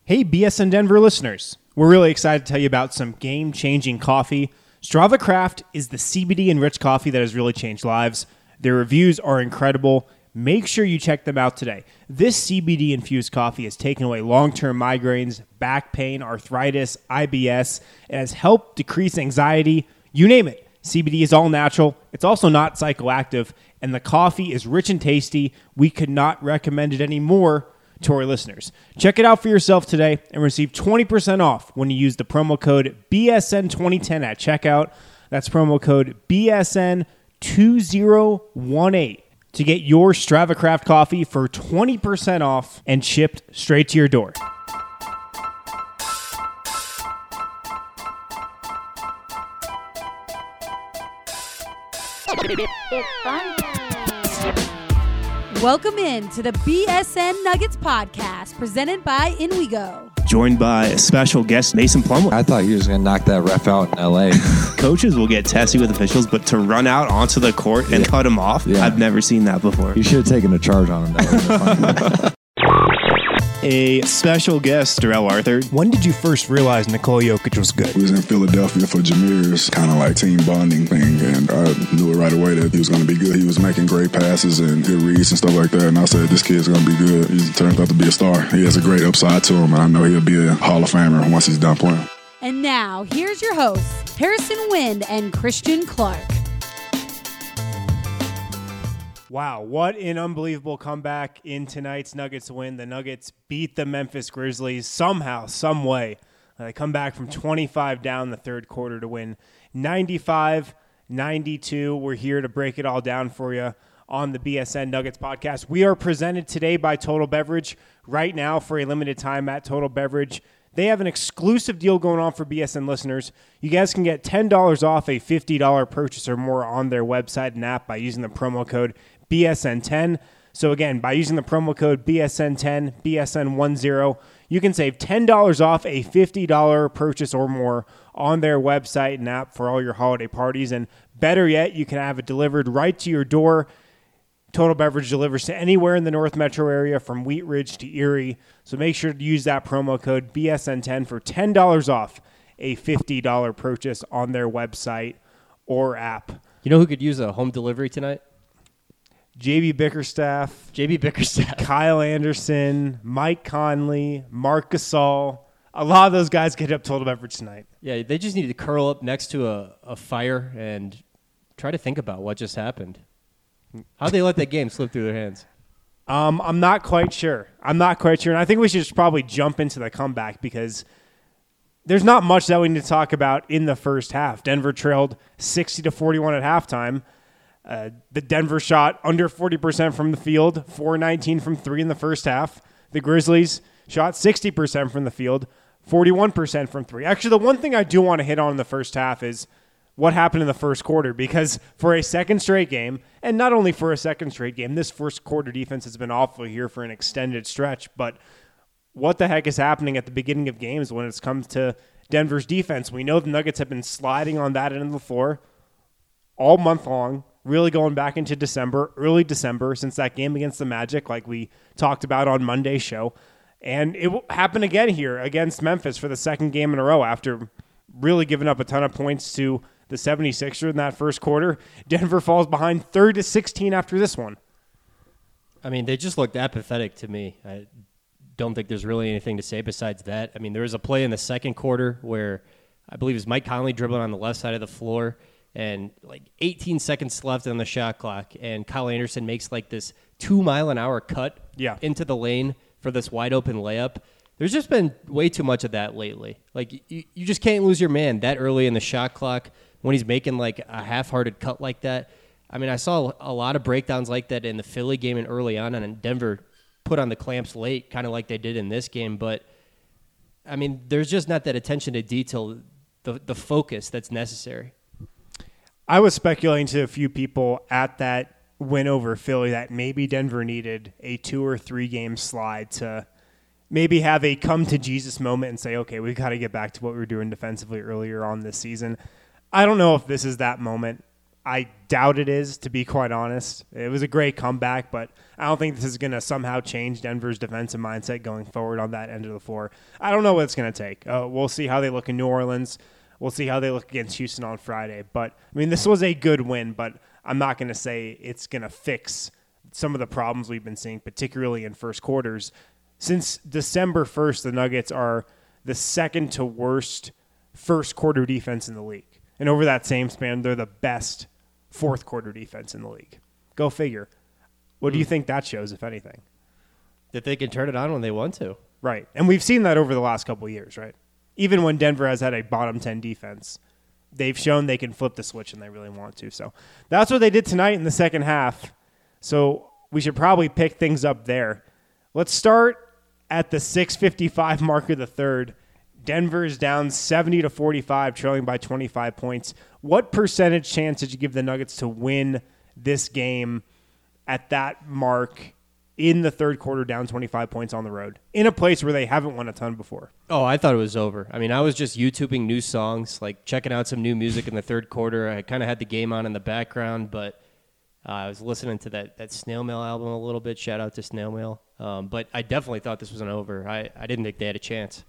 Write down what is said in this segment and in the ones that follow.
Hey, BSN Denver listeners. We're really excited to tell you about some game-changing coffee. Strava Craft is the CBD-enriched coffee that has really changed lives. Their reviews are incredible. Make sure you check them out today. This CBD-infused coffee has taken away long-term migraines, back pain, arthritis, IBS. It has helped decrease anxiety. You name it. CBD is all natural. It's also not psychoactive. And the coffee is rich and tasty. We could not recommend it anymore to our listeners. Check it out for yourself today and receive 20% off when you use the promo code BSN2010 at checkout. That's promo code BSN2018 to get your Strava Craft coffee for 20% off and shipped straight to your door. It's fun time. Welcome in to the BSN Nuggets podcast presented by InWeGo. Joined by a special guest, Mason Plumlee. I thought he was going to knock that ref out in L.A. Coaches will get testy with officials, but to run out onto the court and cut him off, I've never seen that before. You should have taken a charge on him. That would have been funny. A special guest, Darrell Arthur. When did you first realize Nikola Jokic was good? We was in Philadelphia for Jameer's kind of like team bonding thing, and I knew it right away that he was going to be good. He was making great passes and good reads and stuff like that, and I said, this kid's going to be good. He turns out to be a star. He has a great upside to him, and I know he'll be a Hall of Famer once he's done playing. And now, here's your hosts, Harrison Wind and Christian Clark. Wow, what an unbelievable comeback in tonight's Nuggets win. The Nuggets beat the Memphis Grizzlies somehow, some way. They come back from 25 down the third quarter to win 95-92. We're here to break it all down for you on the BSN Nuggets podcast. We are presented today by Total Beverage. Right now, for a limited time at Total Beverage, they have an exclusive deal going on for BSN listeners. You guys can get $10 off a $50 purchase or more on their website and app by using the promo code BSN10. So again, by using the promo code BSN10, BSN10, you can save $10 off a $50 purchase or more on their website and app for all your holiday parties. And better yet, you can have it delivered right to your door. Total Beverage delivers to anywhere in the North Metro area from Wheat Ridge to Erie. So make sure to use that promo code BSN10 for $10 off a $50 purchase on their website or app. You know who could use a home delivery tonight? JB Bickerstaff, Kyle Anderson, Mike Conley, Marc Gasol. A lot of those guys get up Total Beverage tonight. Yeah, they just need to curl up next to a fire and try to think about what just happened. How'd they let that game slip through their hands? I'm not quite sure. And I think we should just probably jump into the comeback because there's not much that we need to talk about in the first half. Denver trailed 60-41 at halftime. The Denver shot under 40% from the field, 4-19 from three in the first half. The Grizzlies shot 60% from the field, 41% from three. Actually, the one thing I do want to hit on in the first half is what happened in the first quarter, because for a second straight game, and not only for a second straight game, this first quarter defense has been awful here for an extended stretch, but what the heck is happening at the beginning of games when it comes to Denver's defense? We know the Nuggets have been sliding on that end of the floor all month long, really going back into December, early December, since that game against the Magic, like we talked about on Monday's show. And it will happen again here against Memphis for the second game in a row after really giving up a ton of points to the 76ers in that first quarter. Denver falls behind 30-16 after this one. I mean, they just looked apathetic to me. I don't think there's really anything to say besides that. I mean, there was a play in the second quarter where I believe it was Mike Conley dribbling on the left side of the floor, and like 18 seconds left on the shot clock, and Kyle Anderson makes like this 2-mile-an-hour cut into the lane for this wide-open layup. There's just been way too much of that lately. Like, you just can't lose your man that early in the shot clock when he's making like a half-hearted cut like that. I mean, I saw a lot of breakdowns like that in the Philly game and early on, and Denver put on the clamps late, kind of like they did in this game. But, I mean, there's just not that attention to detail, the focus that's necessary. I was speculating to a few people at that win over Philly that maybe Denver needed a 2 or 3 game slide to maybe have a come to Jesus moment and say, okay, we've got to get back to what we were doing defensively earlier on this season. I don't know if this is that moment. I doubt it is, to be quite honest. It was a great comeback, but I don't think this is going to somehow change Denver's defensive mindset going forward on that end of the floor. I don't know what it's going to take. We'll see how they look in New Orleans. We'll see how they look against Houston on Friday. But, I mean, this was a good win, but I'm not going to say it's going to fix some of the problems we've been seeing, particularly in first quarters. Since December 1st, the Nuggets are the second to worst first quarter defense in the league. And over that same span, they're the best fourth quarter defense in the league. Go figure. What do you think that shows, if anything? That they can turn it on when they want to. Right. And we've seen that over the last couple of years, right? Even when Denver has had a bottom 10 defense, they've shown they can flip the switch and they really want to. So that's what they did tonight in the second half. So we should probably pick things up there. Let's start at the 6:55 mark of the third. Denver is down 70-45, trailing by 25 points. What percentage chance did you give the Nuggets to win this game at that mark in the third quarter, down 25 points on the road, in a place where they haven't won a ton before? Oh, I thought it was over. I mean, I was just YouTubing new songs, like checking out some new music in the third quarter. I kind of had the game on in the background, but I was listening to that Snail Mail album a little bit. Shout out to Snail Mail. But I definitely thought this was an over. I didn't think they had a chance.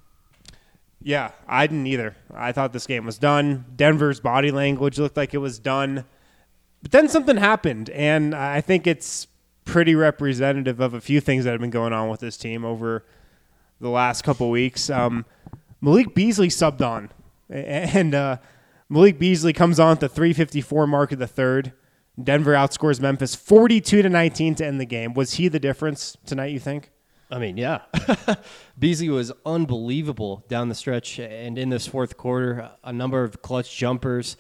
Yeah, I didn't either. I thought this game was done. Denver's body language looked like it was done. But then something happened, and I think it's pretty representative of a few things that have been going on with this team over the last couple weeks. Malik Beasley subbed on, and Malik Beasley comes on at the 3:54 mark of the third. Denver outscores Memphis 42-19 to end the game. Was he the difference tonight, you think? I mean, yeah. Beasley was unbelievable down the stretch, and in this fourth quarter, a number of clutch jumpers,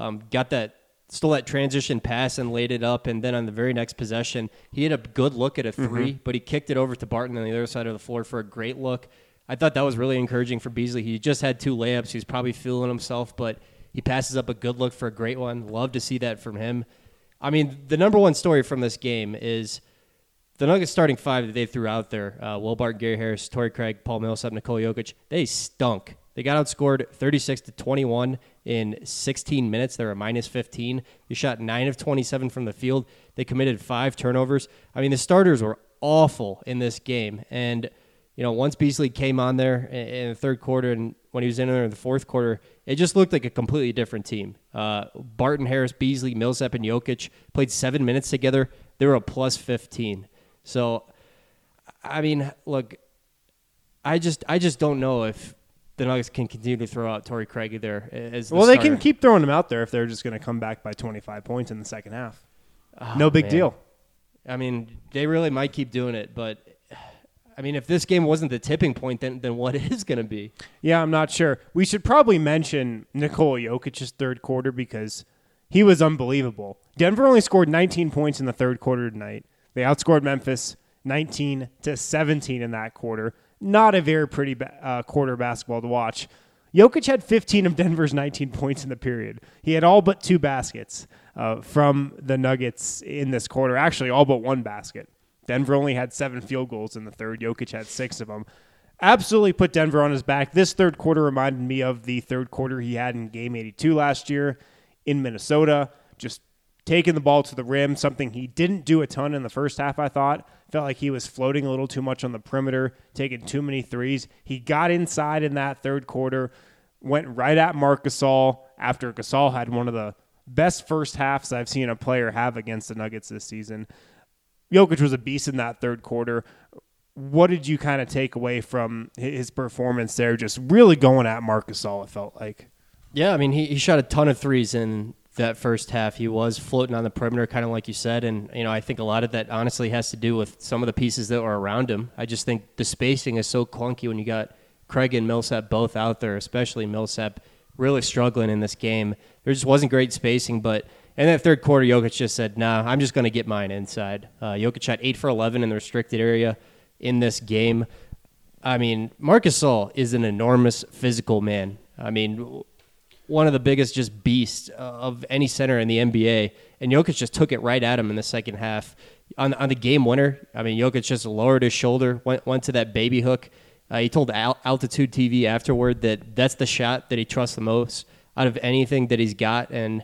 stole that transition pass and laid it up, and then on the very next possession, he had a good look at a three, but he kicked it over to Barton on the other side of the floor for a great look. I thought that was really encouraging for Beasley. He just had 2 layups. He was probably feeling himself, but he passes up a good look for a great one. Love to see that from him. I mean, the number one story from this game is the Nuggets starting 5 that they threw out there, Will Barton, Gary Harris, Torrey Craig, Paul Millsap, Nikola Jokic, they stunk. They got outscored 36-21 in 16 minutes. They were minus 15. They shot 9 of 27 from the field. They committed 5 turnovers. I mean, the starters were awful in this game. And, you know, once Beasley came on there in the third quarter and when he was in there in the fourth quarter, it just looked like a completely different team. Barton, Harris, Beasley, Millsap, and Jokic played 7 minutes together. They were a plus 15. So, I mean, look, I just don't know if the Nuggets can continue to throw out Torrey Craig there as the They starter. can keep throwing him out there if they're just going to come back by 25 points in the second half. No big deal. I mean, they really might keep doing it, but I mean, if this game wasn't the tipping point, then what is going to be? Yeah, I'm not sure. We should probably mention Nikola Jokic's third quarter because he was unbelievable. Denver only scored 19 points in the third quarter tonight. They outscored Memphis 19-17 in that quarter. Not a very pretty quarter basketball to watch. Jokic had 15 of Denver's 19 points in the period. He had all but 2 baskets from the Nuggets in this quarter. Actually, all but 1 basket. Denver only had 7 field goals in the third. Jokic had 6 of them. Absolutely put Denver on his back. This third quarter reminded me of the third quarter he had in Game 82 last year in Minnesota. Just taking the ball to the rim, something he didn't do a ton in the first half, I thought. Felt like he was floating a little too much on the perimeter, taking too many threes. He got inside in that third quarter, went right at Marc Gasol after Gasol had one of the best first halves I've seen a player have against the Nuggets this season. Jokic was a beast in that third quarter. What did you kind of take away from his performance there, just really going at Marc Gasol, it felt like? Yeah, I mean, he shot a ton of threes in that first half. He was floating on the perimeter, kind of like you said, and you know, I think a lot of that honestly has to do with some of the pieces that were around him. I just think the spacing is so clunky when you got Craig and Millsap both out there, especially Millsap really struggling in this game. There just wasn't great spacing, but in that third quarter, Jokic just said, nah, I'm just going to get mine inside. Jokic shot 8 for 11 in the restricted area in this game. I mean, Marc Gasol is an enormous physical man. I mean, one of the biggest just beasts of any center in the NBA, and Jokic just took it right at him in the second half. On the game winner, I mean, Jokic just lowered his shoulder, went to that baby hook. He told Altitude TV afterward that that's the shot that he trusts the most out of anything that he's got, and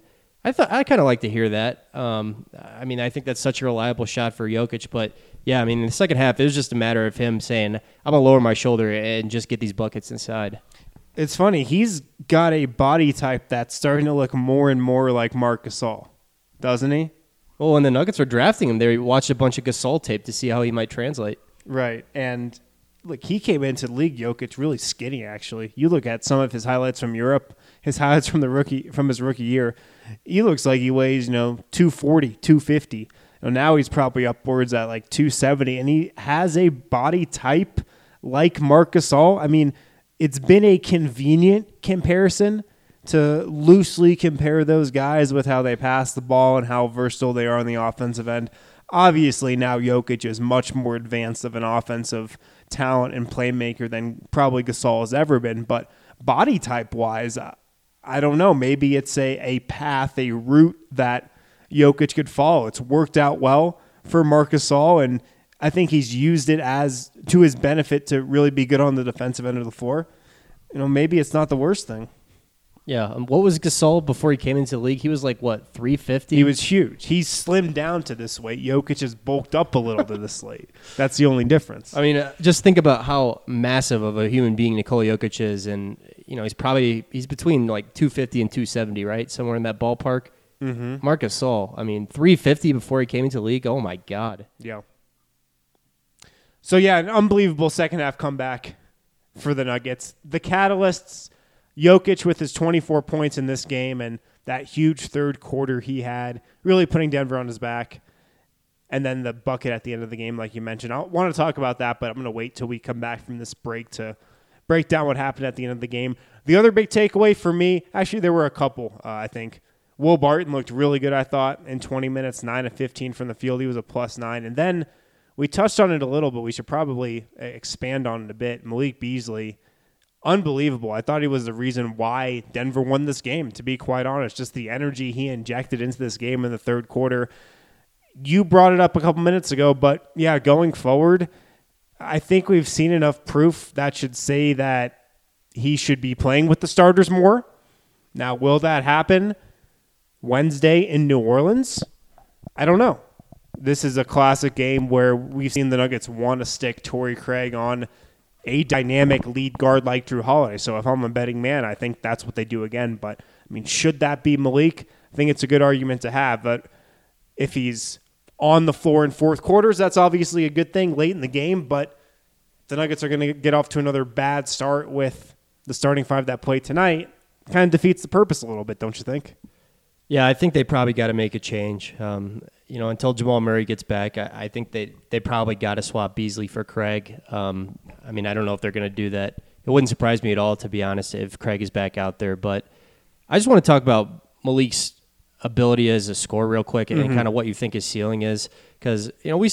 I kind of like to hear that. I mean, I think that's such a reliable shot for Jokic. But, yeah, I mean, in the second half, it was just a matter of him saying, I'm going to lower my shoulder and just get these buckets inside. It's funny. He's got a body type that's starting to look more and more like Marc Gasol, doesn't he? Well, when the Nuggets were drafting him, they watched a bunch of Gasol tape to see how he might translate. Right. And, look, he came into the league, Jokic, really skinny, actually. You look at some of his highlights from Europe, his highlights from his rookie year, he looks like he weighs, 240, 250. Now he's probably upwards at like 270, and he has a body type like Marc Gasol. I mean, it's been a convenient comparison to loosely compare those guys with how they pass the ball and how versatile they are on the offensive end. Obviously, now Jokic is much more advanced of an offensive talent and playmaker than probably Gasol has ever been, but body type-wise, I don't know. Maybe it's a path, a route that Jokic could follow. It's worked out well for Marc Gasol, and I think he's used it as to his benefit to really be good on the defensive end of the floor. Maybe it's not the worst thing. Yeah. What was Gasol before he came into the league? He was like, 350? He was huge. He's slimmed down to this weight. Jokic has bulked up a little to this weight. That's the only difference. I mean, just think about how massive of a human being Nikola Jokic is, and he's between like 250 and 270, right? Somewhere in that ballpark. Mm-hmm. Marc Gasol, I mean, 350 before he came into the league. Oh my God. Yeah. So yeah, an unbelievable second half comeback for the Nuggets. The catalysts, Jokic with his 24 points in this game and that huge third quarter he had, really putting Denver on his back. And then the bucket at the end of the game, like you mentioned. I want to talk about that, but I'm going to wait till we come back from this break to break down what happened at the end of the game. The other big takeaway for me, actually there were a couple, I think. Will Barton looked really good, I thought, in 20 minutes, 9 of 15 from the field. He was a +9. And then we touched on it a little, but we should probably expand on it a bit. Malik Beasley, unbelievable. I thought he was the reason why Denver won this game, to be quite honest. Just the energy he injected into this game in the third quarter. You brought it up a couple minutes ago, but yeah, going forward, I think we've seen enough proof that should say that he should be playing with the starters more. Now, will that happen Wednesday in New Orleans? I don't know. This is a classic game where we've seen the Nuggets want to stick Torrey Craig on a dynamic lead guard like Drew Holiday. So if I'm a betting man, I think that's what they do again. But, I mean, should that be Malik? I think it's a good argument to have. But if he's on the floor in fourth quarters, that's obviously a good thing late in the game. But the Nuggets are going to get off to another bad start with the starting five that played tonight. Kind of defeats the purpose a little bit, don't you think? Yeah, I think they probably got to make a change. Until Jamal Murray gets back, I think they probably got to swap Beasley for Craig. I don't know if they're going to do that. It wouldn't surprise me at all, to be honest, if Craig is back out there. But I just want to talk about Malik's ability as a scorer real quick and kind of what you think his ceiling is. Because,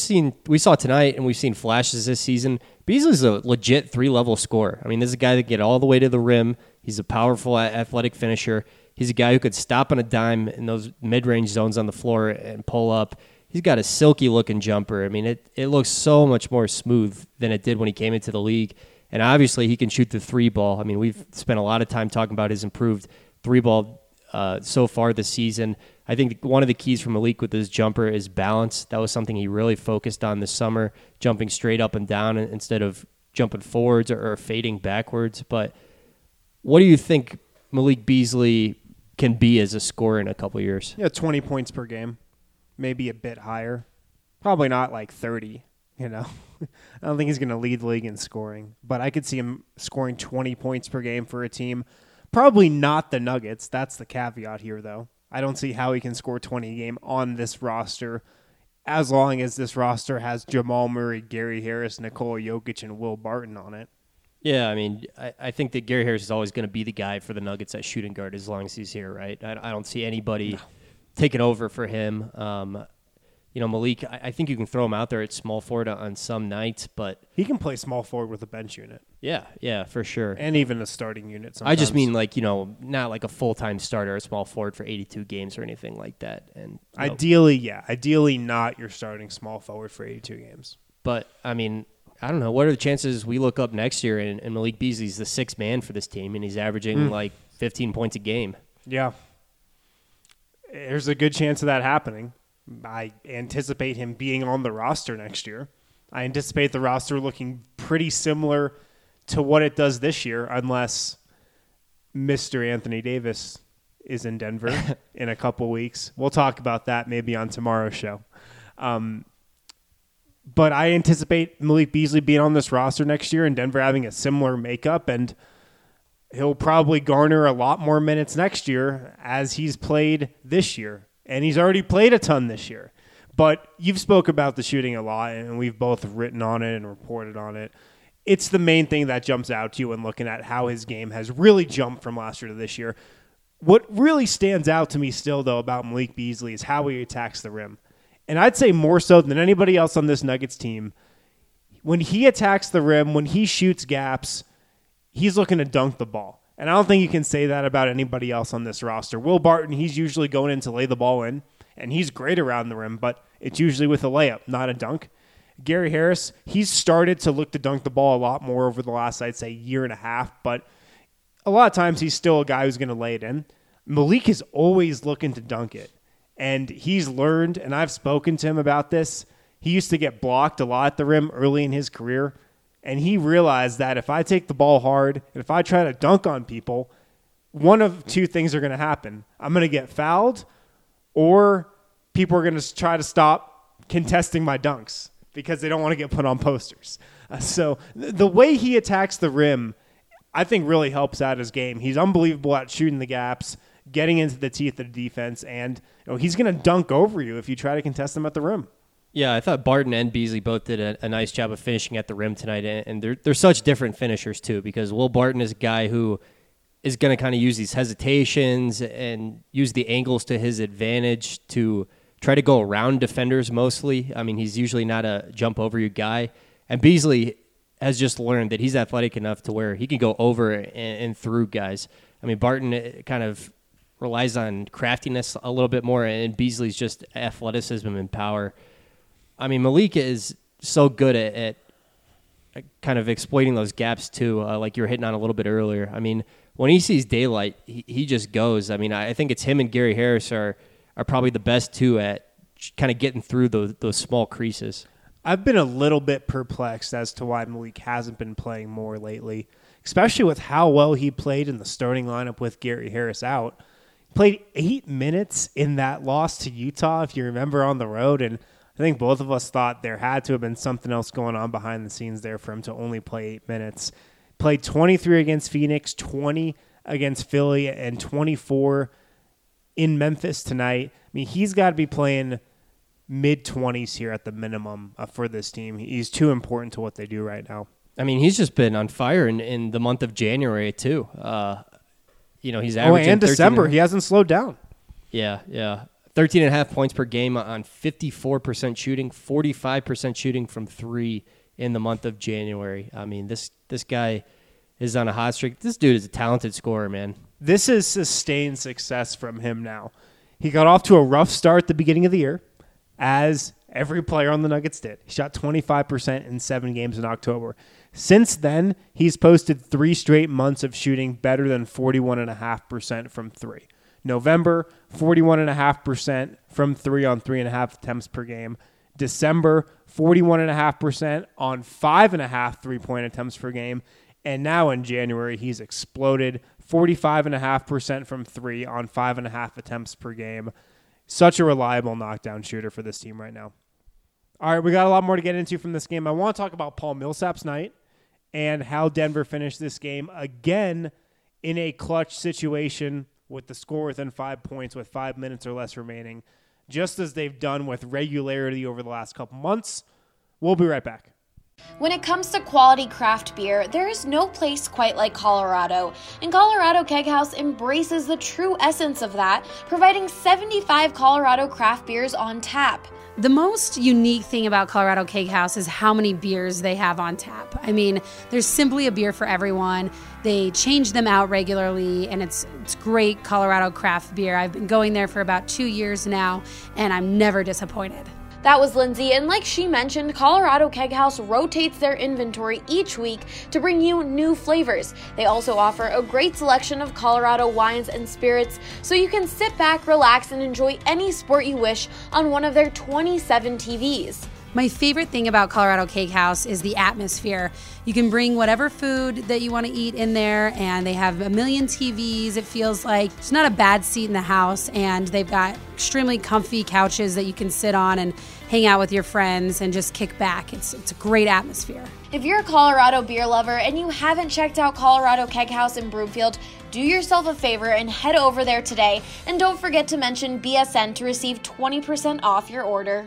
we saw tonight and we've seen flashes this season. Beasley's a legit 3-level scorer. I mean, this is a guy that can get all the way to the rim. He's a powerful, athletic finisher. He's a guy who could stop on a dime in those mid-range zones on the floor and pull up. He's got a silky-looking jumper. I mean, it looks so much more smooth than it did when he came into the league. And obviously, he can shoot the three ball. I mean, we've spent a lot of time talking about his improved three ball so far this season. I think one of the keys for Malik with his jumper is balance. That was something he really focused on this summer, jumping straight up and down instead of jumping forwards or fading backwards. But what do you think Malik Beasley can be as a scorer in a couple years? Yeah, 20 points per game, maybe a bit higher. Probably not like 30, I don't think he's going to lead the league in scoring, but I could see him scoring 20 points per game for a team. Probably not the Nuggets. That's the caveat here, though. I don't see how he can score 20 a game on this roster as long as this roster has Jamal Murray, Gary Harris, Nikola Jokic, and Will Barton on it. Yeah, I mean, I think that Gary Harris is always going to be the guy for the Nuggets at shooting guard as long as he's here, right? I don't see anybody taking over for him. Malik, I think you can throw him out there at small forward on some nights, but he can play small forward with a bench unit. Yeah, for sure. And even a starting unit sometimes. I just mean not like a full-time starter at small forward for 82 games or anything like that. And Ideally not your starting small forward for 82 games. But, I mean, I don't know. What are the chances we look up next year and Malik Beasley's the sixth man for this team and he's averaging 15 points a game? Yeah. there's a good chance of that happening. I anticipate him being on the roster next year. I anticipate the roster looking pretty similar to what it does this year, unless Mr. Anthony Davis is in Denver in a couple weeks. We'll talk about that maybe on tomorrow's show. But I anticipate Malik Beasley being on this roster next year and Denver having a similar makeup, and he'll probably garner a lot more minutes next year as he's played this year. And he's already played a ton this year. But you've spoke about the shooting a lot, and we've both written on it and reported on it. It's the main thing that jumps out to you when looking at how his game has really jumped from last year to this year. What really stands out to me still, though, about Malik Beasley is how he attacks the rim. And I'd say more so than anybody else on this Nuggets team, when he attacks the rim, when he shoots gaps, he's looking to dunk the ball. And I don't think you can say that about anybody else on this roster. Will Barton, he's usually going in to lay the ball in, and he's great around the rim, but it's usually with a layup, not a dunk. Gary Harris, he's started to look to dunk the ball a lot more over the last, I'd say, year and a half, but a lot of times he's still a guy who's going to lay it in. Malik is always looking to dunk it, and he's learned, and I've spoken to him about this. He used to get blocked a lot at the rim early in his career, and he realized that if I take the ball hard and if I try to dunk on people, one of two things are going to happen. I'm going to get fouled, or people are going to try to stop contesting my dunks because they don't want to get put on posters. So the way he attacks the rim, I think, really helps out his game. He's unbelievable at shooting the gaps, getting into the teeth of the defense, and he's going to dunk over you if you try to contest him at the rim. Yeah, I thought Barton and Beasley both did a nice job of finishing at the rim tonight, and they're such different finishers too, because Will Barton is a guy who is going to kind of use these hesitations and use the angles to his advantage to try to go around defenders mostly. I mean, he's usually not a jump-over-you guy, and Beasley has just learned that he's athletic enough to where he can go over and through guys. I mean, Barton kind of relies on craftiness a little bit more, and Beasley's just athleticism and power. I mean, Malik is so good at kind of exploiting those gaps too, like you were hitting on a little bit earlier. I mean, when he sees daylight, he just goes. I mean, I think it's him and Gary Harris are probably the best two at kind of getting through those small creases. I've been a little bit perplexed as to why Malik hasn't been playing more lately, especially with how well he played in the starting lineup with Gary Harris out. He played 8 minutes in that loss to Utah, if you remember, on the road, and I think both of us thought there had to have been something else going on behind the scenes there for him to only play 8 minutes. Played 23 against Phoenix, 20 against Philly, and 24 in Memphis tonight. I mean, he's got to be playing mid-20s here at the minimum for this team. He's too important to what they do right now. I mean, he's just been on fire in the month of January, too. He's averaging and December. He hasn't slowed down. Yeah. 13.5 points per game on 54% shooting, 45% shooting from three in the month of January. I mean, this guy is on a hot streak. This dude is a talented scorer, man. This is sustained success from him now. He got off to a rough start at the beginning of the year, as every player on the Nuggets did. He shot 25% in 7 games in October. Since then, he's posted 3 straight months of shooting better than 41.5% from 3. November, 41.5% from 3 on 3.5 attempts per game. December, 41.5% on 5.5 3-point attempts per game. And now in January, he's exploded, 45.5% from 3 on 5.5 attempts per game. Such a reliable knockdown shooter for this team right now. All right, we got a lot more to get into from this game. I want to talk about Paul Millsap's night and how Denver finished this game again in a clutch situation with the score within 5 points with 5 minutes or less remaining, just as they've done with regularity over the last couple months. We'll be right back. When it comes to quality craft beer, there is no place quite like Colorado, and Colorado Keg House embraces the true essence of that, providing 75 Colorado craft beers on tap. The most unique thing about Colorado Keg House is how many beers they have on tap. I mean, there's simply a beer for everyone. They change them out regularly, and it's great Colorado craft beer. I've been going there for about 2 years now, and I'm never disappointed. That was Lindsay, and like she mentioned, Colorado Keg House rotates their inventory each week to bring you new flavors. They also offer a great selection of Colorado wines and spirits, so you can sit back, relax, and enjoy any sport you wish on one of their 27 TVs. My favorite thing about Colorado Cake House is the atmosphere. You can bring whatever food that you want to eat in there, and they have a million TVs. It feels like there's not a bad seat in the house, and they've got extremely comfy couches that you can sit on and hang out with your friends and just kick back. It's a great atmosphere. If you're a Colorado beer lover and you haven't checked out Colorado Keg House in Broomfield, do yourself a favor and head over there today. And don't forget to mention BSN to receive 20% off your order.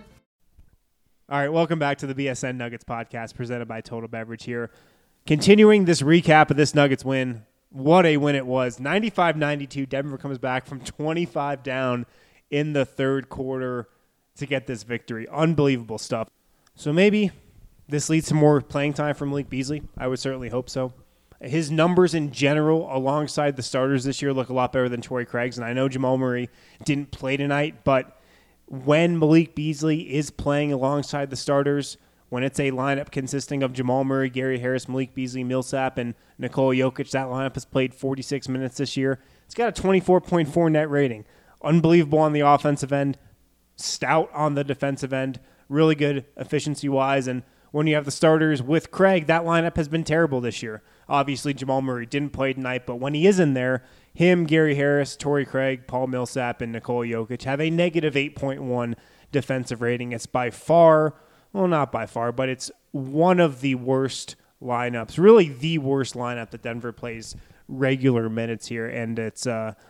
All right, welcome back to the BSN Nuggets podcast presented by Total Beverage here. Continuing this recap of this Nuggets win, what a win it was. 95-92, Denver comes back from 25 down in the third quarter to get this victory. Unbelievable stuff. So maybe this leads to more playing time for Malik Beasley. I would certainly hope so. His numbers in general alongside the starters this year look a lot better than Torrey Craig's, and I know Jamal Murray didn't play tonight, but when Malik Beasley is playing alongside the starters, when it's a lineup consisting of Jamal Murray, Gary Harris, Malik Beasley, Millsap, and Nikola Jokic, that lineup has played 46 minutes this year. It's got a 24.4 net rating. Unbelievable on the offensive end, stout on the defensive end, really good efficiency-wise. And when you have the starters with Craig, that lineup has been terrible this year. Obviously, Jamal Murray didn't play tonight, but when he is in there, him, Gary Harris, Torrey Craig, Paul Millsap, and Nikola Jokic have a negative 8.1 defensive rating. It's by far, well, not by far, but it's one of the worst lineups, really the worst lineup that Denver plays regular minutes here, and it's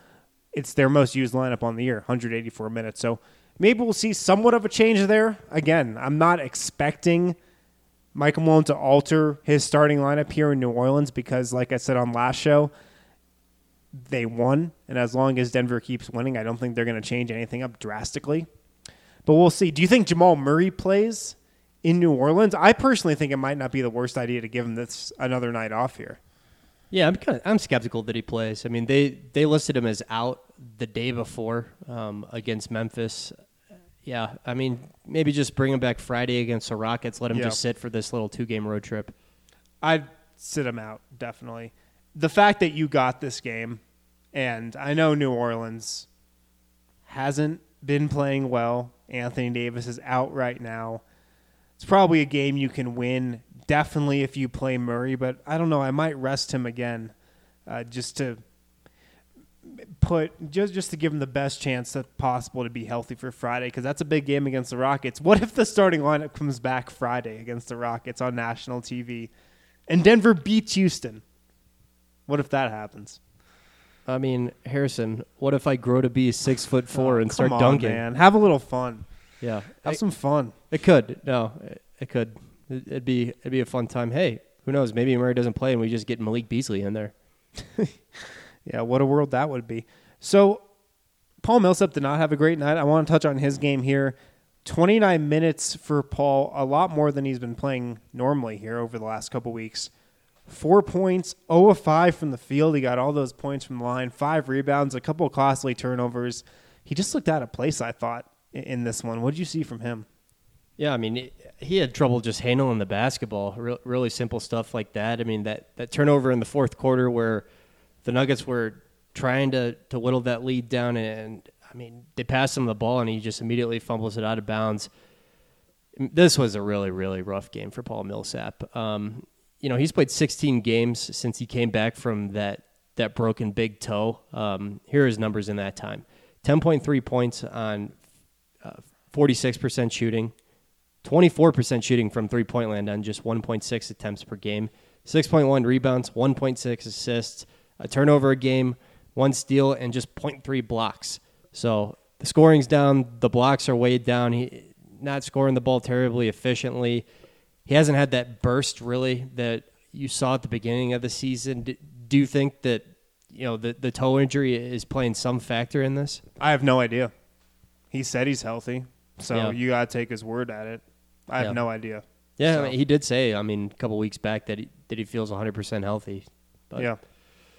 their most used lineup on the year, 184 minutes. So maybe we'll see somewhat of a change there. Again, I'm not expecting Michael Malone to alter his starting lineup here in New Orleans because, like I said on last show, they won, and as long as Denver keeps winning, I don't think they're going to change anything up drastically. But we'll see. Do you think Jamal Murray plays in New Orleans? I personally think it might not be the worst idea to give him this another night off here. Yeah, I'm skeptical that he plays. I mean, they listed him as out the day before against Memphis. Yeah, I mean, maybe just bring him back Friday against the Rockets. Let him just sit for this little 2-game road trip. I'd sit him out, definitely. The fact that you got this game, and I know New Orleans hasn't been playing well. Anthony Davis is out right now. It's probably a game you can win, definitely if you play Murray, but I don't know. I might rest him again just to give him the best chance that possible to be healthy for Friday, because that's a big game against the Rockets. What if the starting lineup comes back Friday against the Rockets on national TV and Denver beats Houston? What if that happens? I mean, Harrison, what if I grow to be 6'4" and start dunking? Man. Have a little fun. Yeah, Have some fun. It could. No, it could. It'd be a fun time. Hey, who knows? Maybe Murray doesn't play and we just get Malik Beasley in there. Yeah, what a world that would be. So, Paul Millsap did not have a great night. I want to touch on his game here. 29 minutes for Paul, a lot more than he's been playing normally here over the last couple weeks. 4 points, 0 of 5 from the field. He got all those points from the line, 5 rebounds, a couple of costly turnovers. He just looked out of place, I thought, in this one. What did you see from him? Yeah, I mean, he had trouble just handling the basketball, really simple stuff like that. I mean, that turnover in the fourth quarter where the Nuggets were trying to whittle that lead down, and I mean, they passed him the ball, and he just immediately fumbles it out of bounds. This was a really, really rough game for Paul Millsap. He's played 16 games since he came back from that broken big toe. Here are his numbers in that time. 10.3 points on 46% shooting, 24% shooting from three-point land on just 1.6 attempts per game, 6.1 rebounds, 1.6 assists, a turnover a game, 1 steal, and just 0.3 blocks. So the scoring's down, the blocks are weighed down. He not scoring the ball terribly efficiently. He hasn't had that burst, really, that you saw at the beginning of the season. Do you think that the toe injury is playing some factor in this? I have no idea. He said he's healthy, so you got to take his word at it. I have no idea. Yeah, so. I mean, he did say, a couple weeks back that he feels 100% healthy. But yeah.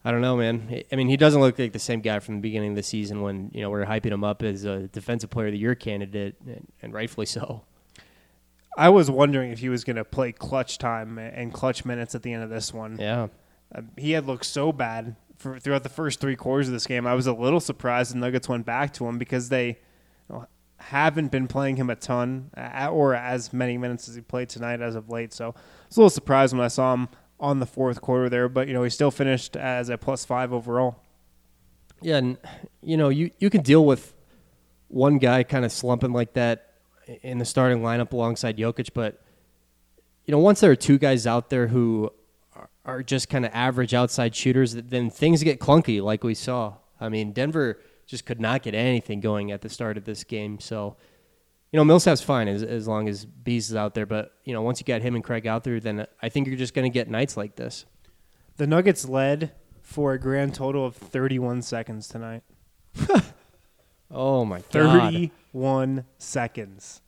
I don't know, man. I mean, he doesn't look like the same guy from the beginning of the season when, we were hyping him up as a Defensive Player of the Year candidate, and rightfully so. I was wondering if he was going to play clutch time and clutch minutes at the end of this one. Yeah. He had looked so bad throughout the first 3 quarters of this game. I was a little surprised the Nuggets went back to him because they haven't been playing him a ton or as many minutes as he played tonight as of late. So I was a little surprised when I saw him on the fourth quarter there, but he still finished as a +5 overall. Yeah, and you can deal with one guy kind of slumping like that in the starting lineup alongside Jokic, but once there are 2 guys out there who are just kind of average outside shooters, then things get clunky like we saw. I mean, Denver just could not get anything going at the start of this game. So, Millsap's fine as long as Bees is out there. But, once you got him and Craig out there, then I think you're just going to get nights like this. The Nuggets led for a grand total of 31 seconds tonight. Oh, my God. 31 seconds.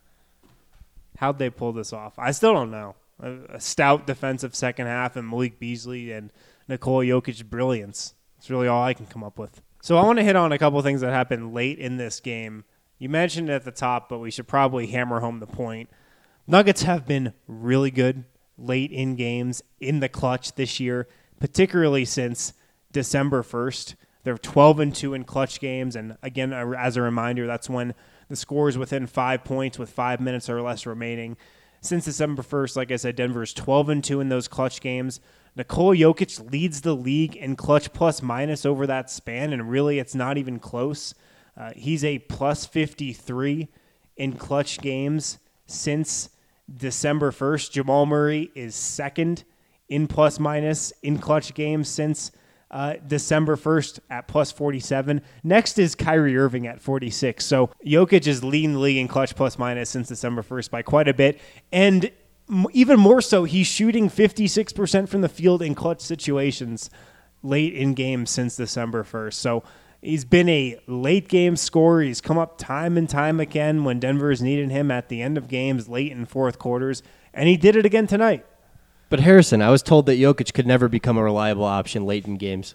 How'd they pull this off? I still don't know. A stout defensive second half and Malik Beasley and Nikola Jokic's brilliance. That's really all I can come up with. So I want to hit on a couple of things that happened late in this game. You mentioned it at the top, but we should probably hammer home the point. Nuggets have been really good late in games in the clutch this year, particularly since December 1st. They're 12-2 in clutch games, and again, as a reminder, that's when the score is within 5 points with 5 minutes or less remaining. Since December 1st, like I said, Denver is 12-2 in those clutch games. Nikola Jokic leads the league in clutch plus minus over that span, and really it's not even close. He's a plus 53 in clutch games since December 1st. Jamal Murray is second in plus minus in clutch games since December 1st at plus 47. Next is Kyrie Irving at 46. So Jokic is leading the league in clutch plus minus since December 1st by quite a bit. And even more so, he's shooting 56% from the field in clutch situations late in games since December 1st. So he's been a late game scorer. He's come up time and time again when Denver has needed him at the end of games, late in fourth quarters. And he did it again tonight. But Harrison, I was told that Jokic could never become a reliable option late in games.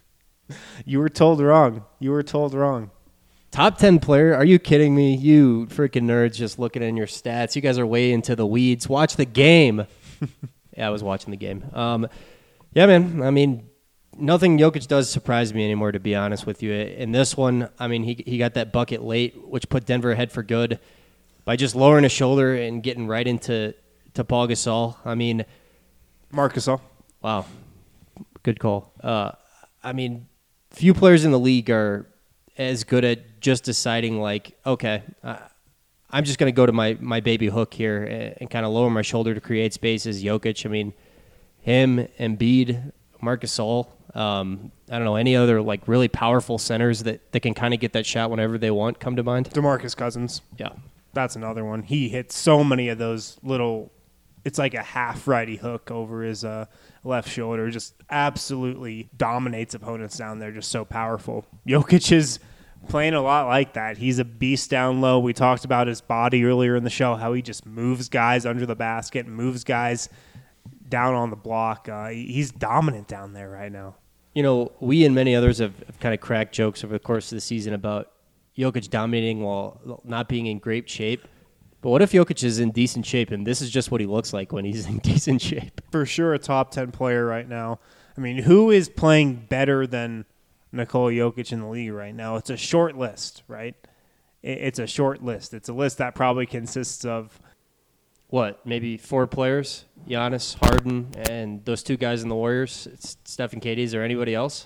You were told wrong. You were told wrong. Top 10 player? Are you kidding me? You freaking nerds just looking in your stats. You guys are way into the weeds. Watch the game. Yeah, I was watching the game. Yeah, man. I mean, nothing Jokic does surprise me anymore, to be honest with you. In this one, I mean, he got that bucket late, which put Denver ahead for good by just lowering his shoulder and getting right into Paul Gasol. I mean, Marc Gasol. Wow. Good call. I mean, few players in the league are as good at just deciding, like, okay, I'm just going to go to my baby hook here and kind of lower my shoulder to create space as Jokic. I mean, him, Embiid, Marc Gasol, I don't know, any other like really powerful centers that can kind of get that shot whenever they want come to mind? DeMarcus Cousins. Yeah. That's another one. He hits so many of those little, it's like a half righty hook over his left shoulder. Just absolutely dominates opponents down there. Just so powerful. Jokic is playing a lot like that. He's a beast down low. We talked about his body earlier in the show, how he just moves guys under the basket, moves guys down on the block. He's dominant down there right now. You know, we and many others have kind of cracked jokes over the course of the season about Jokic dominating while not being in great shape. But what if Jokic is in decent shape, and this is just what he looks like when he's in decent shape? For sure a top 10 player right now. I mean, who is playing better than Nikola Jokic in the league right now? It's a short list, right? It's a short list. It's a list that probably consists of what, maybe 4 players? Giannis, Harden, and those 2 guys in the Warriors, it's Steph and KD. Is there anybody else?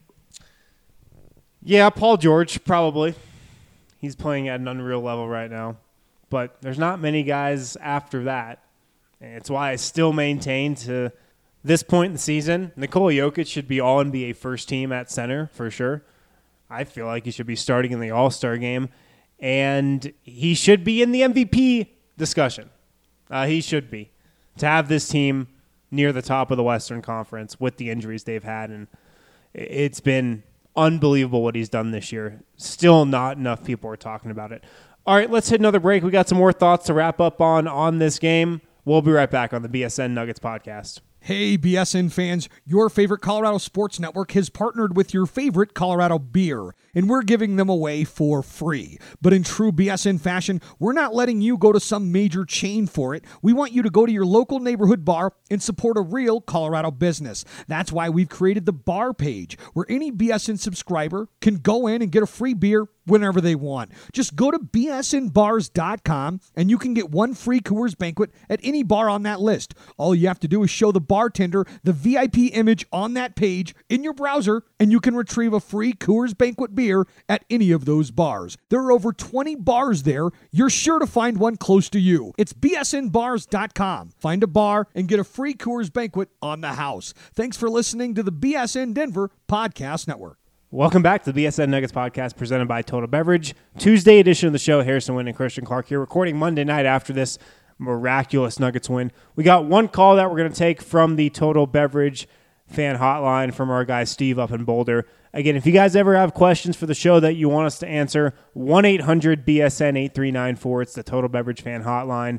Yeah, Paul George, probably. He's playing at an unreal level right now. But there's not many guys after that. And it's why I still maintain to this point in the season, Nikola Jokic should be all-NBA first team at center for sure. I feel like he should be starting in the All-Star game. And he should be in the MVP discussion. He should be. To have this team near the top of the Western Conference with the injuries they've had. And it's been unbelievable what he's done this year. Still not enough people are talking about it. All right, let's hit another break. We got some more thoughts to wrap up on this game. We'll be right back on the BSN Nuggets podcast. Hey, BSN fans, your favorite Colorado Sports Network has partnered with your favorite Colorado beer, and we're giving them away for free. But in true BSN fashion, we're not letting you go to some major chain for it. We want you to go to your local neighborhood bar and support a real Colorado business. That's why we've created the bar page, where any BSN subscriber can go in and get a free beer whenever they want. Just go to bsnbars.com and you can get one free Coors Banquet at any bar on that list. All you have to do is show the bartender the VIP image on that page in your browser, and you can retrieve a free Coors Banquet beer at any of those bars. There are over 20 bars there. You're sure to find one close to you. It's bsnbars.com. Find a bar and get a free Coors Banquet on the house. Thanks for listening to the BSN Denver Podcast Network. Welcome back to the BSN Nuggets podcast presented by Total Beverage. Tuesday edition of the show. Harrison Wind and Christian Clark here, recording Monday night after this miraculous Nuggets win. We got one call that we're going to take from the Total Beverage fan hotline from our guy Steve up in Boulder. Again, if you guys ever have questions for the show that you want us to answer, 1-800-BSN-8394. It's the Total Beverage fan hotline.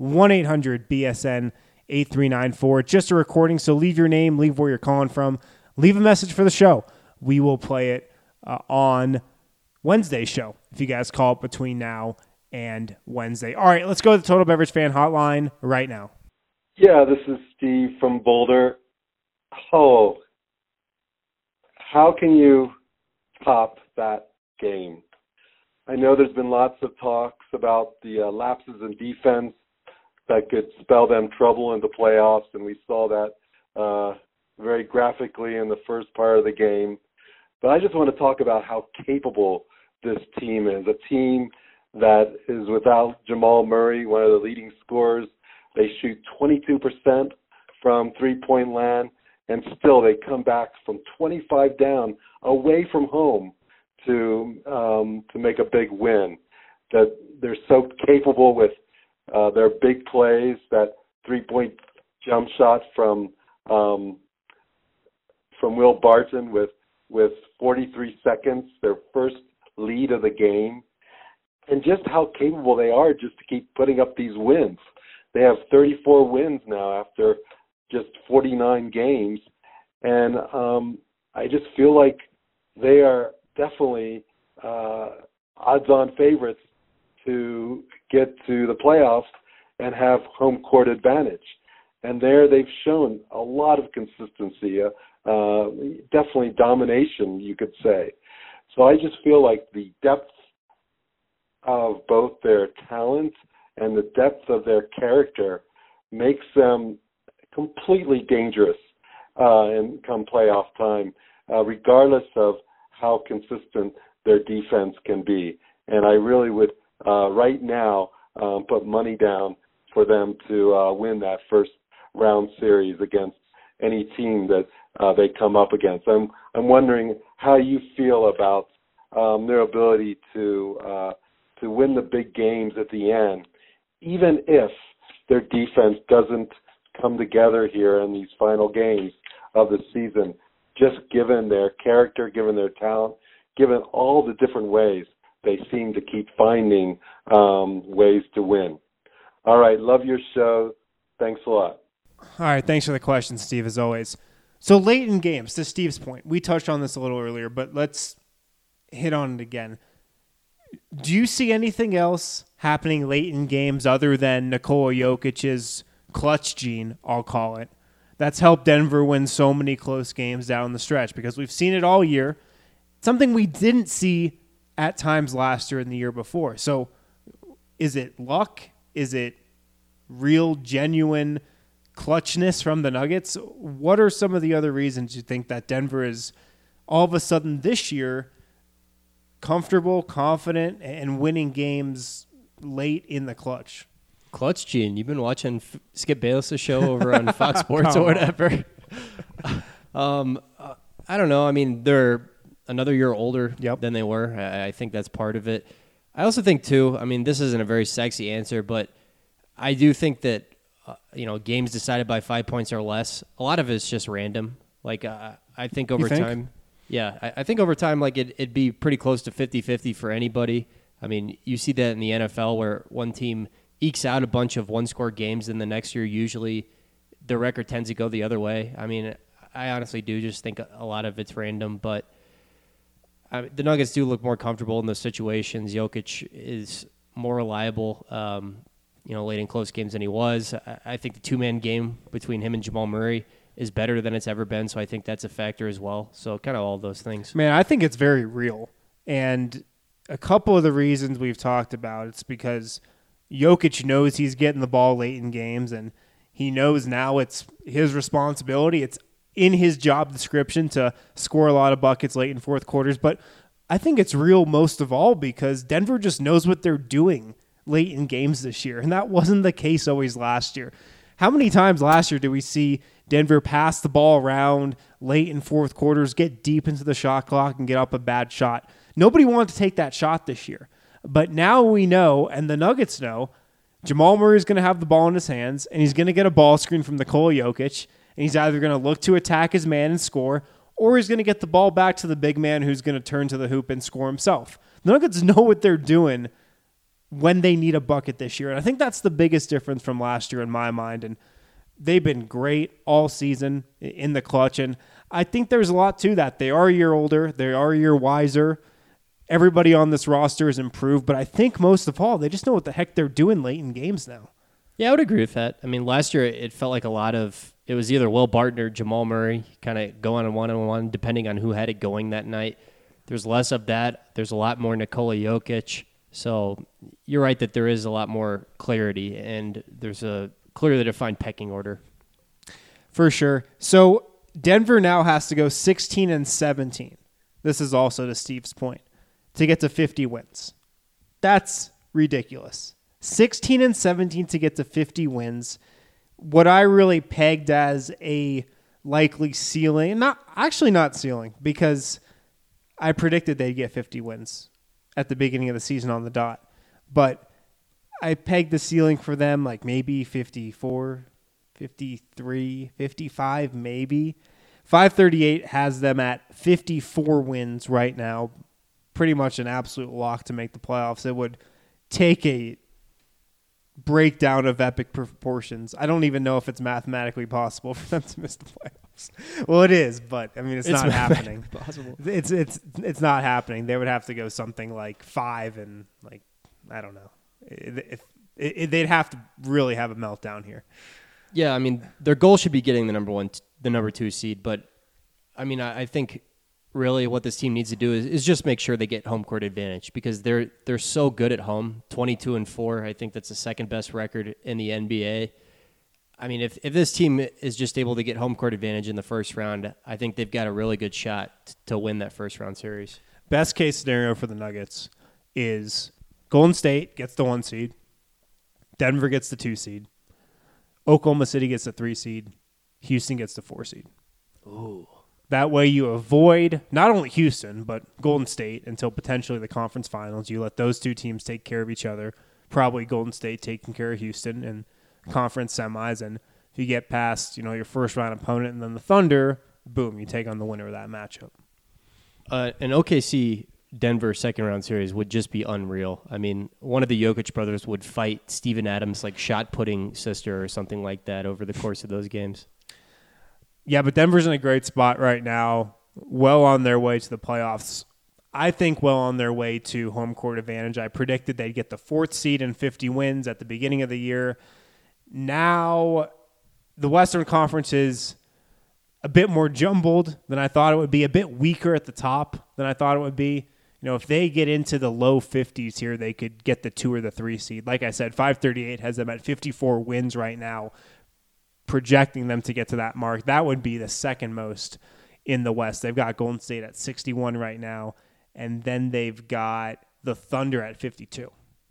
1-800-BSN-8394. Just a recording, so leave your name, leave where you're calling from, leave a message for the show. We will play it on Wednesday's show if you guys call it between now and Wednesday. All right, let's go to the Total Beverage fan hotline right now. Yeah, this is Steve from Boulder. Oh, how can you top that game? I know there's been lots of talks about the lapses in defense that could spell them trouble in the playoffs, and we saw that very graphically in the first part of the game. But I just want to talk about how capable this team is, a team that is without Jamal Murray, one of the leading scorers. They shoot 22% from three-point land, and still they come back from 25 down away from home to make a big win. That they're so capable with their big plays, that three-point jump shot from Will Barton with 43 seconds, their first lead of the game, and just how capable they are just to keep putting up these wins. They have 34 wins now after just 49 games, and I just feel like they are definitely odds-on favorites to get to the playoffs and have home court advantage. And there they've shown a lot of consistency, definitely domination, you could say. So I just feel like the depth of both their talent and the depth of their character makes them completely dangerous in come playoff time, regardless of how consistent their defense can be. And I really would, right now, put money down for them to win that first round series against any team that they come up against. I'm wondering how you feel about their ability to win the big games at the end, even if their defense doesn't come together here in these final games of the season, just given their character, given their talent, given all the different ways they seem to keep finding ways to win. All right, love your show. Thanks a lot. All right, thanks for the question, Steve, as always. So late in games, to Steve's point, we touched on this a little earlier, but let's hit on it again. Do you see anything else happening late in games other than Nikola Jokic's clutch gene, I'll call it, that's helped Denver win so many close games down the stretch? Because we've seen it all year. Something we didn't see at times last year and the year before. So is it luck? Is it real, genuine clutchness from the Nuggets? What are some of the other reasons you think that Denver is all of a sudden this year comfortable, confident, and winning games late in the clutch? Clutch gene. You've been watching Skip Bayless' show over on Fox Sports or whatever. I don't know. I mean, they're another year older than they were. I think that's part of it. I also think, too, I mean, this isn't a very sexy answer, but I do think that, games decided by 5 points or less, a lot of it's just random. Like, I think over time. Yeah, I think over time, like, it'd be pretty close to 50-50 for anybody. I mean, you see that in the NFL where one team ekes out a bunch of one-score games, and the next year usually their record tends to go the other way. I mean, I honestly do just think a lot of it's random, but the Nuggets do look more comfortable in those situations. Jokic is more reliable, late in close games than he was. I think the two-man game between him and Jamal Murray is better than it's ever been, so I think that's a factor as well. So kind of all those things. Man, I think it's very real. And a couple of the reasons we've talked about, it's because Jokic knows he's getting the ball late in games, and he knows now it's his responsibility. It's in his job description to score a lot of buckets late in fourth quarters. But I think it's real most of all because Denver just knows what they're doing late in games this year, and that wasn't the case always last year. How many times last year did we see Denver pass the ball around late in fourth quarters, get deep into the shot clock, and get up a bad shot? Nobody wanted to take that shot this year. But now we know, and the Nuggets know, Jamal Murray is going to have the ball in his hands, and he's going to get a ball screen from Nikola Jokic, and he's either going to look to attack his man and score, or he's going to get the ball back to the big man who's going to turn to the hoop and score himself. The Nuggets know what they're doing when they need a bucket this year, and I think that's the biggest difference from last year in my mind, and they've been great all season in the clutch, and I think there's a lot to that. They are a year older. They are a year wiser. Everybody on this roster has improved, but I think most of all, they just know what the heck they're doing late in games now. Yeah, I would agree with that. I mean, last year it felt like it was either Will Barton or Jamal Murray kind of going on one-on-one, depending on who had it going that night. There's less of that. There's a lot more Nikola Jokic. So you're right that there is a lot more clarity, and there's a clearly defined pecking order. For sure. So Denver now has to go 16-17. This is also to Steve's point, to get to 50 wins. That's ridiculous. 16-17 to get to 50 wins. What I really pegged as a likely ceiling, not ceiling, because I predicted they'd get 50 wins at the beginning of the season on the dot. But I pegged the ceiling for them like maybe 54, 53, 55, maybe. 538 has them at 54 wins right now. Pretty much an absolute lock to make the playoffs. It would take a breakdown of epic proportions. I don't even know if it's mathematically possible for them to miss the playoffs. Well, it is, but I mean, it's not happening. Possible. It's not happening. They would have to go something like 5 and like I don't know. They'd have to really have a meltdown here. Yeah, I mean, their goal should be getting the number 2 seed, but I mean, I think really what this team needs to do is just make sure they get home court advantage because they're so good at home, 22-4. I think that's the second best record in the NBA. I mean, if this team is just able to get home court advantage in the first round, I think they've got a really good shot to win that first round series. Best case scenario for the Nuggets is Golden State gets the 1 seed, Denver gets the 2 seed, Oklahoma City gets the 3 seed, Houston gets the 4 seed. Ooh. That way you avoid not only Houston, but Golden State until potentially the conference finals. You let those two teams take care of each other, probably Golden State taking care of Houston in conference semis. And if you get past, your first round opponent and then the Thunder, boom, you take on the winner of that matchup. An OKC Denver second round series would just be unreal. I mean, one of the Jokic brothers would fight Steven Adams' shot putting sister or something like that over the course of those games. Yeah, but Denver's in a great spot right now, well on their way to the playoffs. I think well on their way to home court advantage. I predicted they'd get the 4th seed and 50 wins at the beginning of the year. Now, the Western Conference is a bit more jumbled than I thought it would be, a bit weaker at the top than I thought it would be. If they get into the low 50s here, they could get the 2 or the 3 seed. Like I said, 538 has them at 54 wins right now, projecting them to get to that mark. That would be the second most in the West. They've got Golden State at 61 right now, and then they've got the Thunder at 52.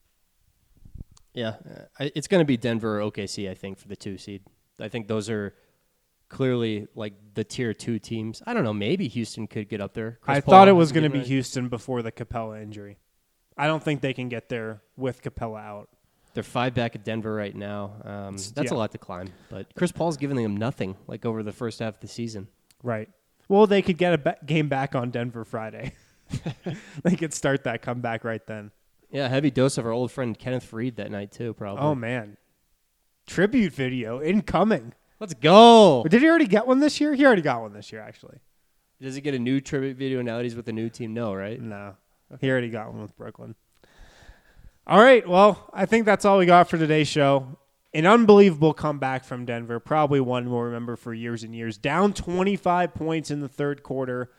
Yeah, it's going to be Denver or OKC, I think, for the 2 seed. I think those are clearly the tier 2 teams. I don't know, maybe Houston could get up there. I thought it was going to be Houston before the Capella injury. I don't think they can get there with Capella out. They're 5 back at Denver right now. That's a lot to climb. But Chris Paul's giving them nothing over the first half of the season. Right. Well, they could get a game back on Denver Friday. They could start that comeback right then. Yeah, heavy dose of our old friend Kenneth Faried that night too, probably. Oh, man. Tribute video incoming. Let's go. Did he already get one this year? He already got one this year, actually. Does he get a new tribute video now that he's with the new team? No, right? No. He already got one with Brooklyn. All right, well, I think that's all we got for today's show. An unbelievable comeback from Denver, probably one we'll remember for years and years. Down 25 points in the third quarter.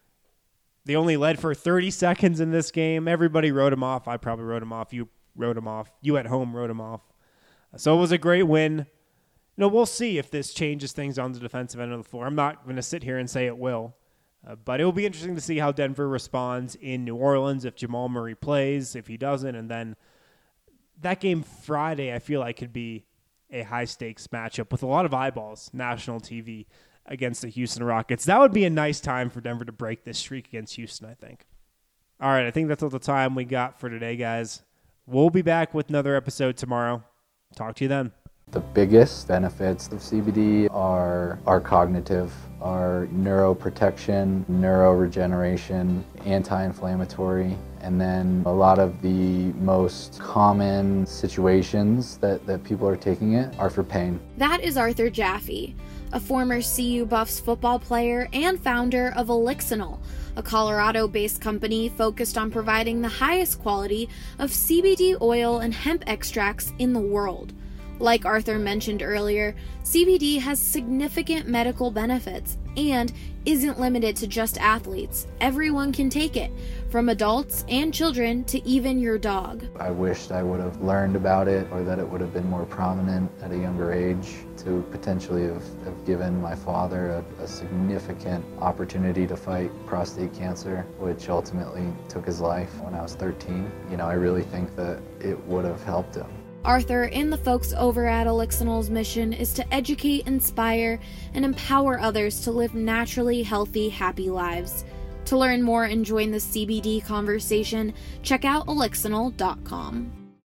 They only led for 30 seconds in this game. Everybody wrote him off. I probably wrote him off. You wrote him off. You at home wrote him off. So it was a great win. We'll see if this changes things on the defensive end of the floor. I'm not going to sit here and say it will. But it will be interesting to see how Denver responds in New Orleans if Jamal Murray plays, if he doesn't. And then that game Friday, I feel like could be a high-stakes matchup with a lot of eyeballs, national TV, against the Houston Rockets. That would be a nice time for Denver to break this streak against Houston, I think. All right, I think that's all the time we got for today, guys. We'll be back with another episode tomorrow. Talk to you then. The biggest benefits of CBD are cognitive, are neuroprotection, neuroregeneration, anti-inflammatory, and then a lot of the most common situations that people are taking it are for pain. That is Arthur Jaffe, a former CU Buffs football player and founder of Elixinol, a Colorado-based company focused on providing the highest quality of CBD oil and hemp extracts in the world. Like Arthur mentioned earlier, CBD has significant medical benefits and isn't limited to just athletes. Everyone can take it, from adults and children to even your dog. I wished I would have learned about it, or that it would have been more prominent at a younger age to potentially have given my father a significant opportunity to fight prostate cancer, which ultimately took his life when I was 13. I really think that it would have helped him. Arthur and the folks over at Elixinol's mission is to educate, inspire, and empower others to live naturally healthy, happy lives. To learn more and join the CBD conversation, check out elixinol.com.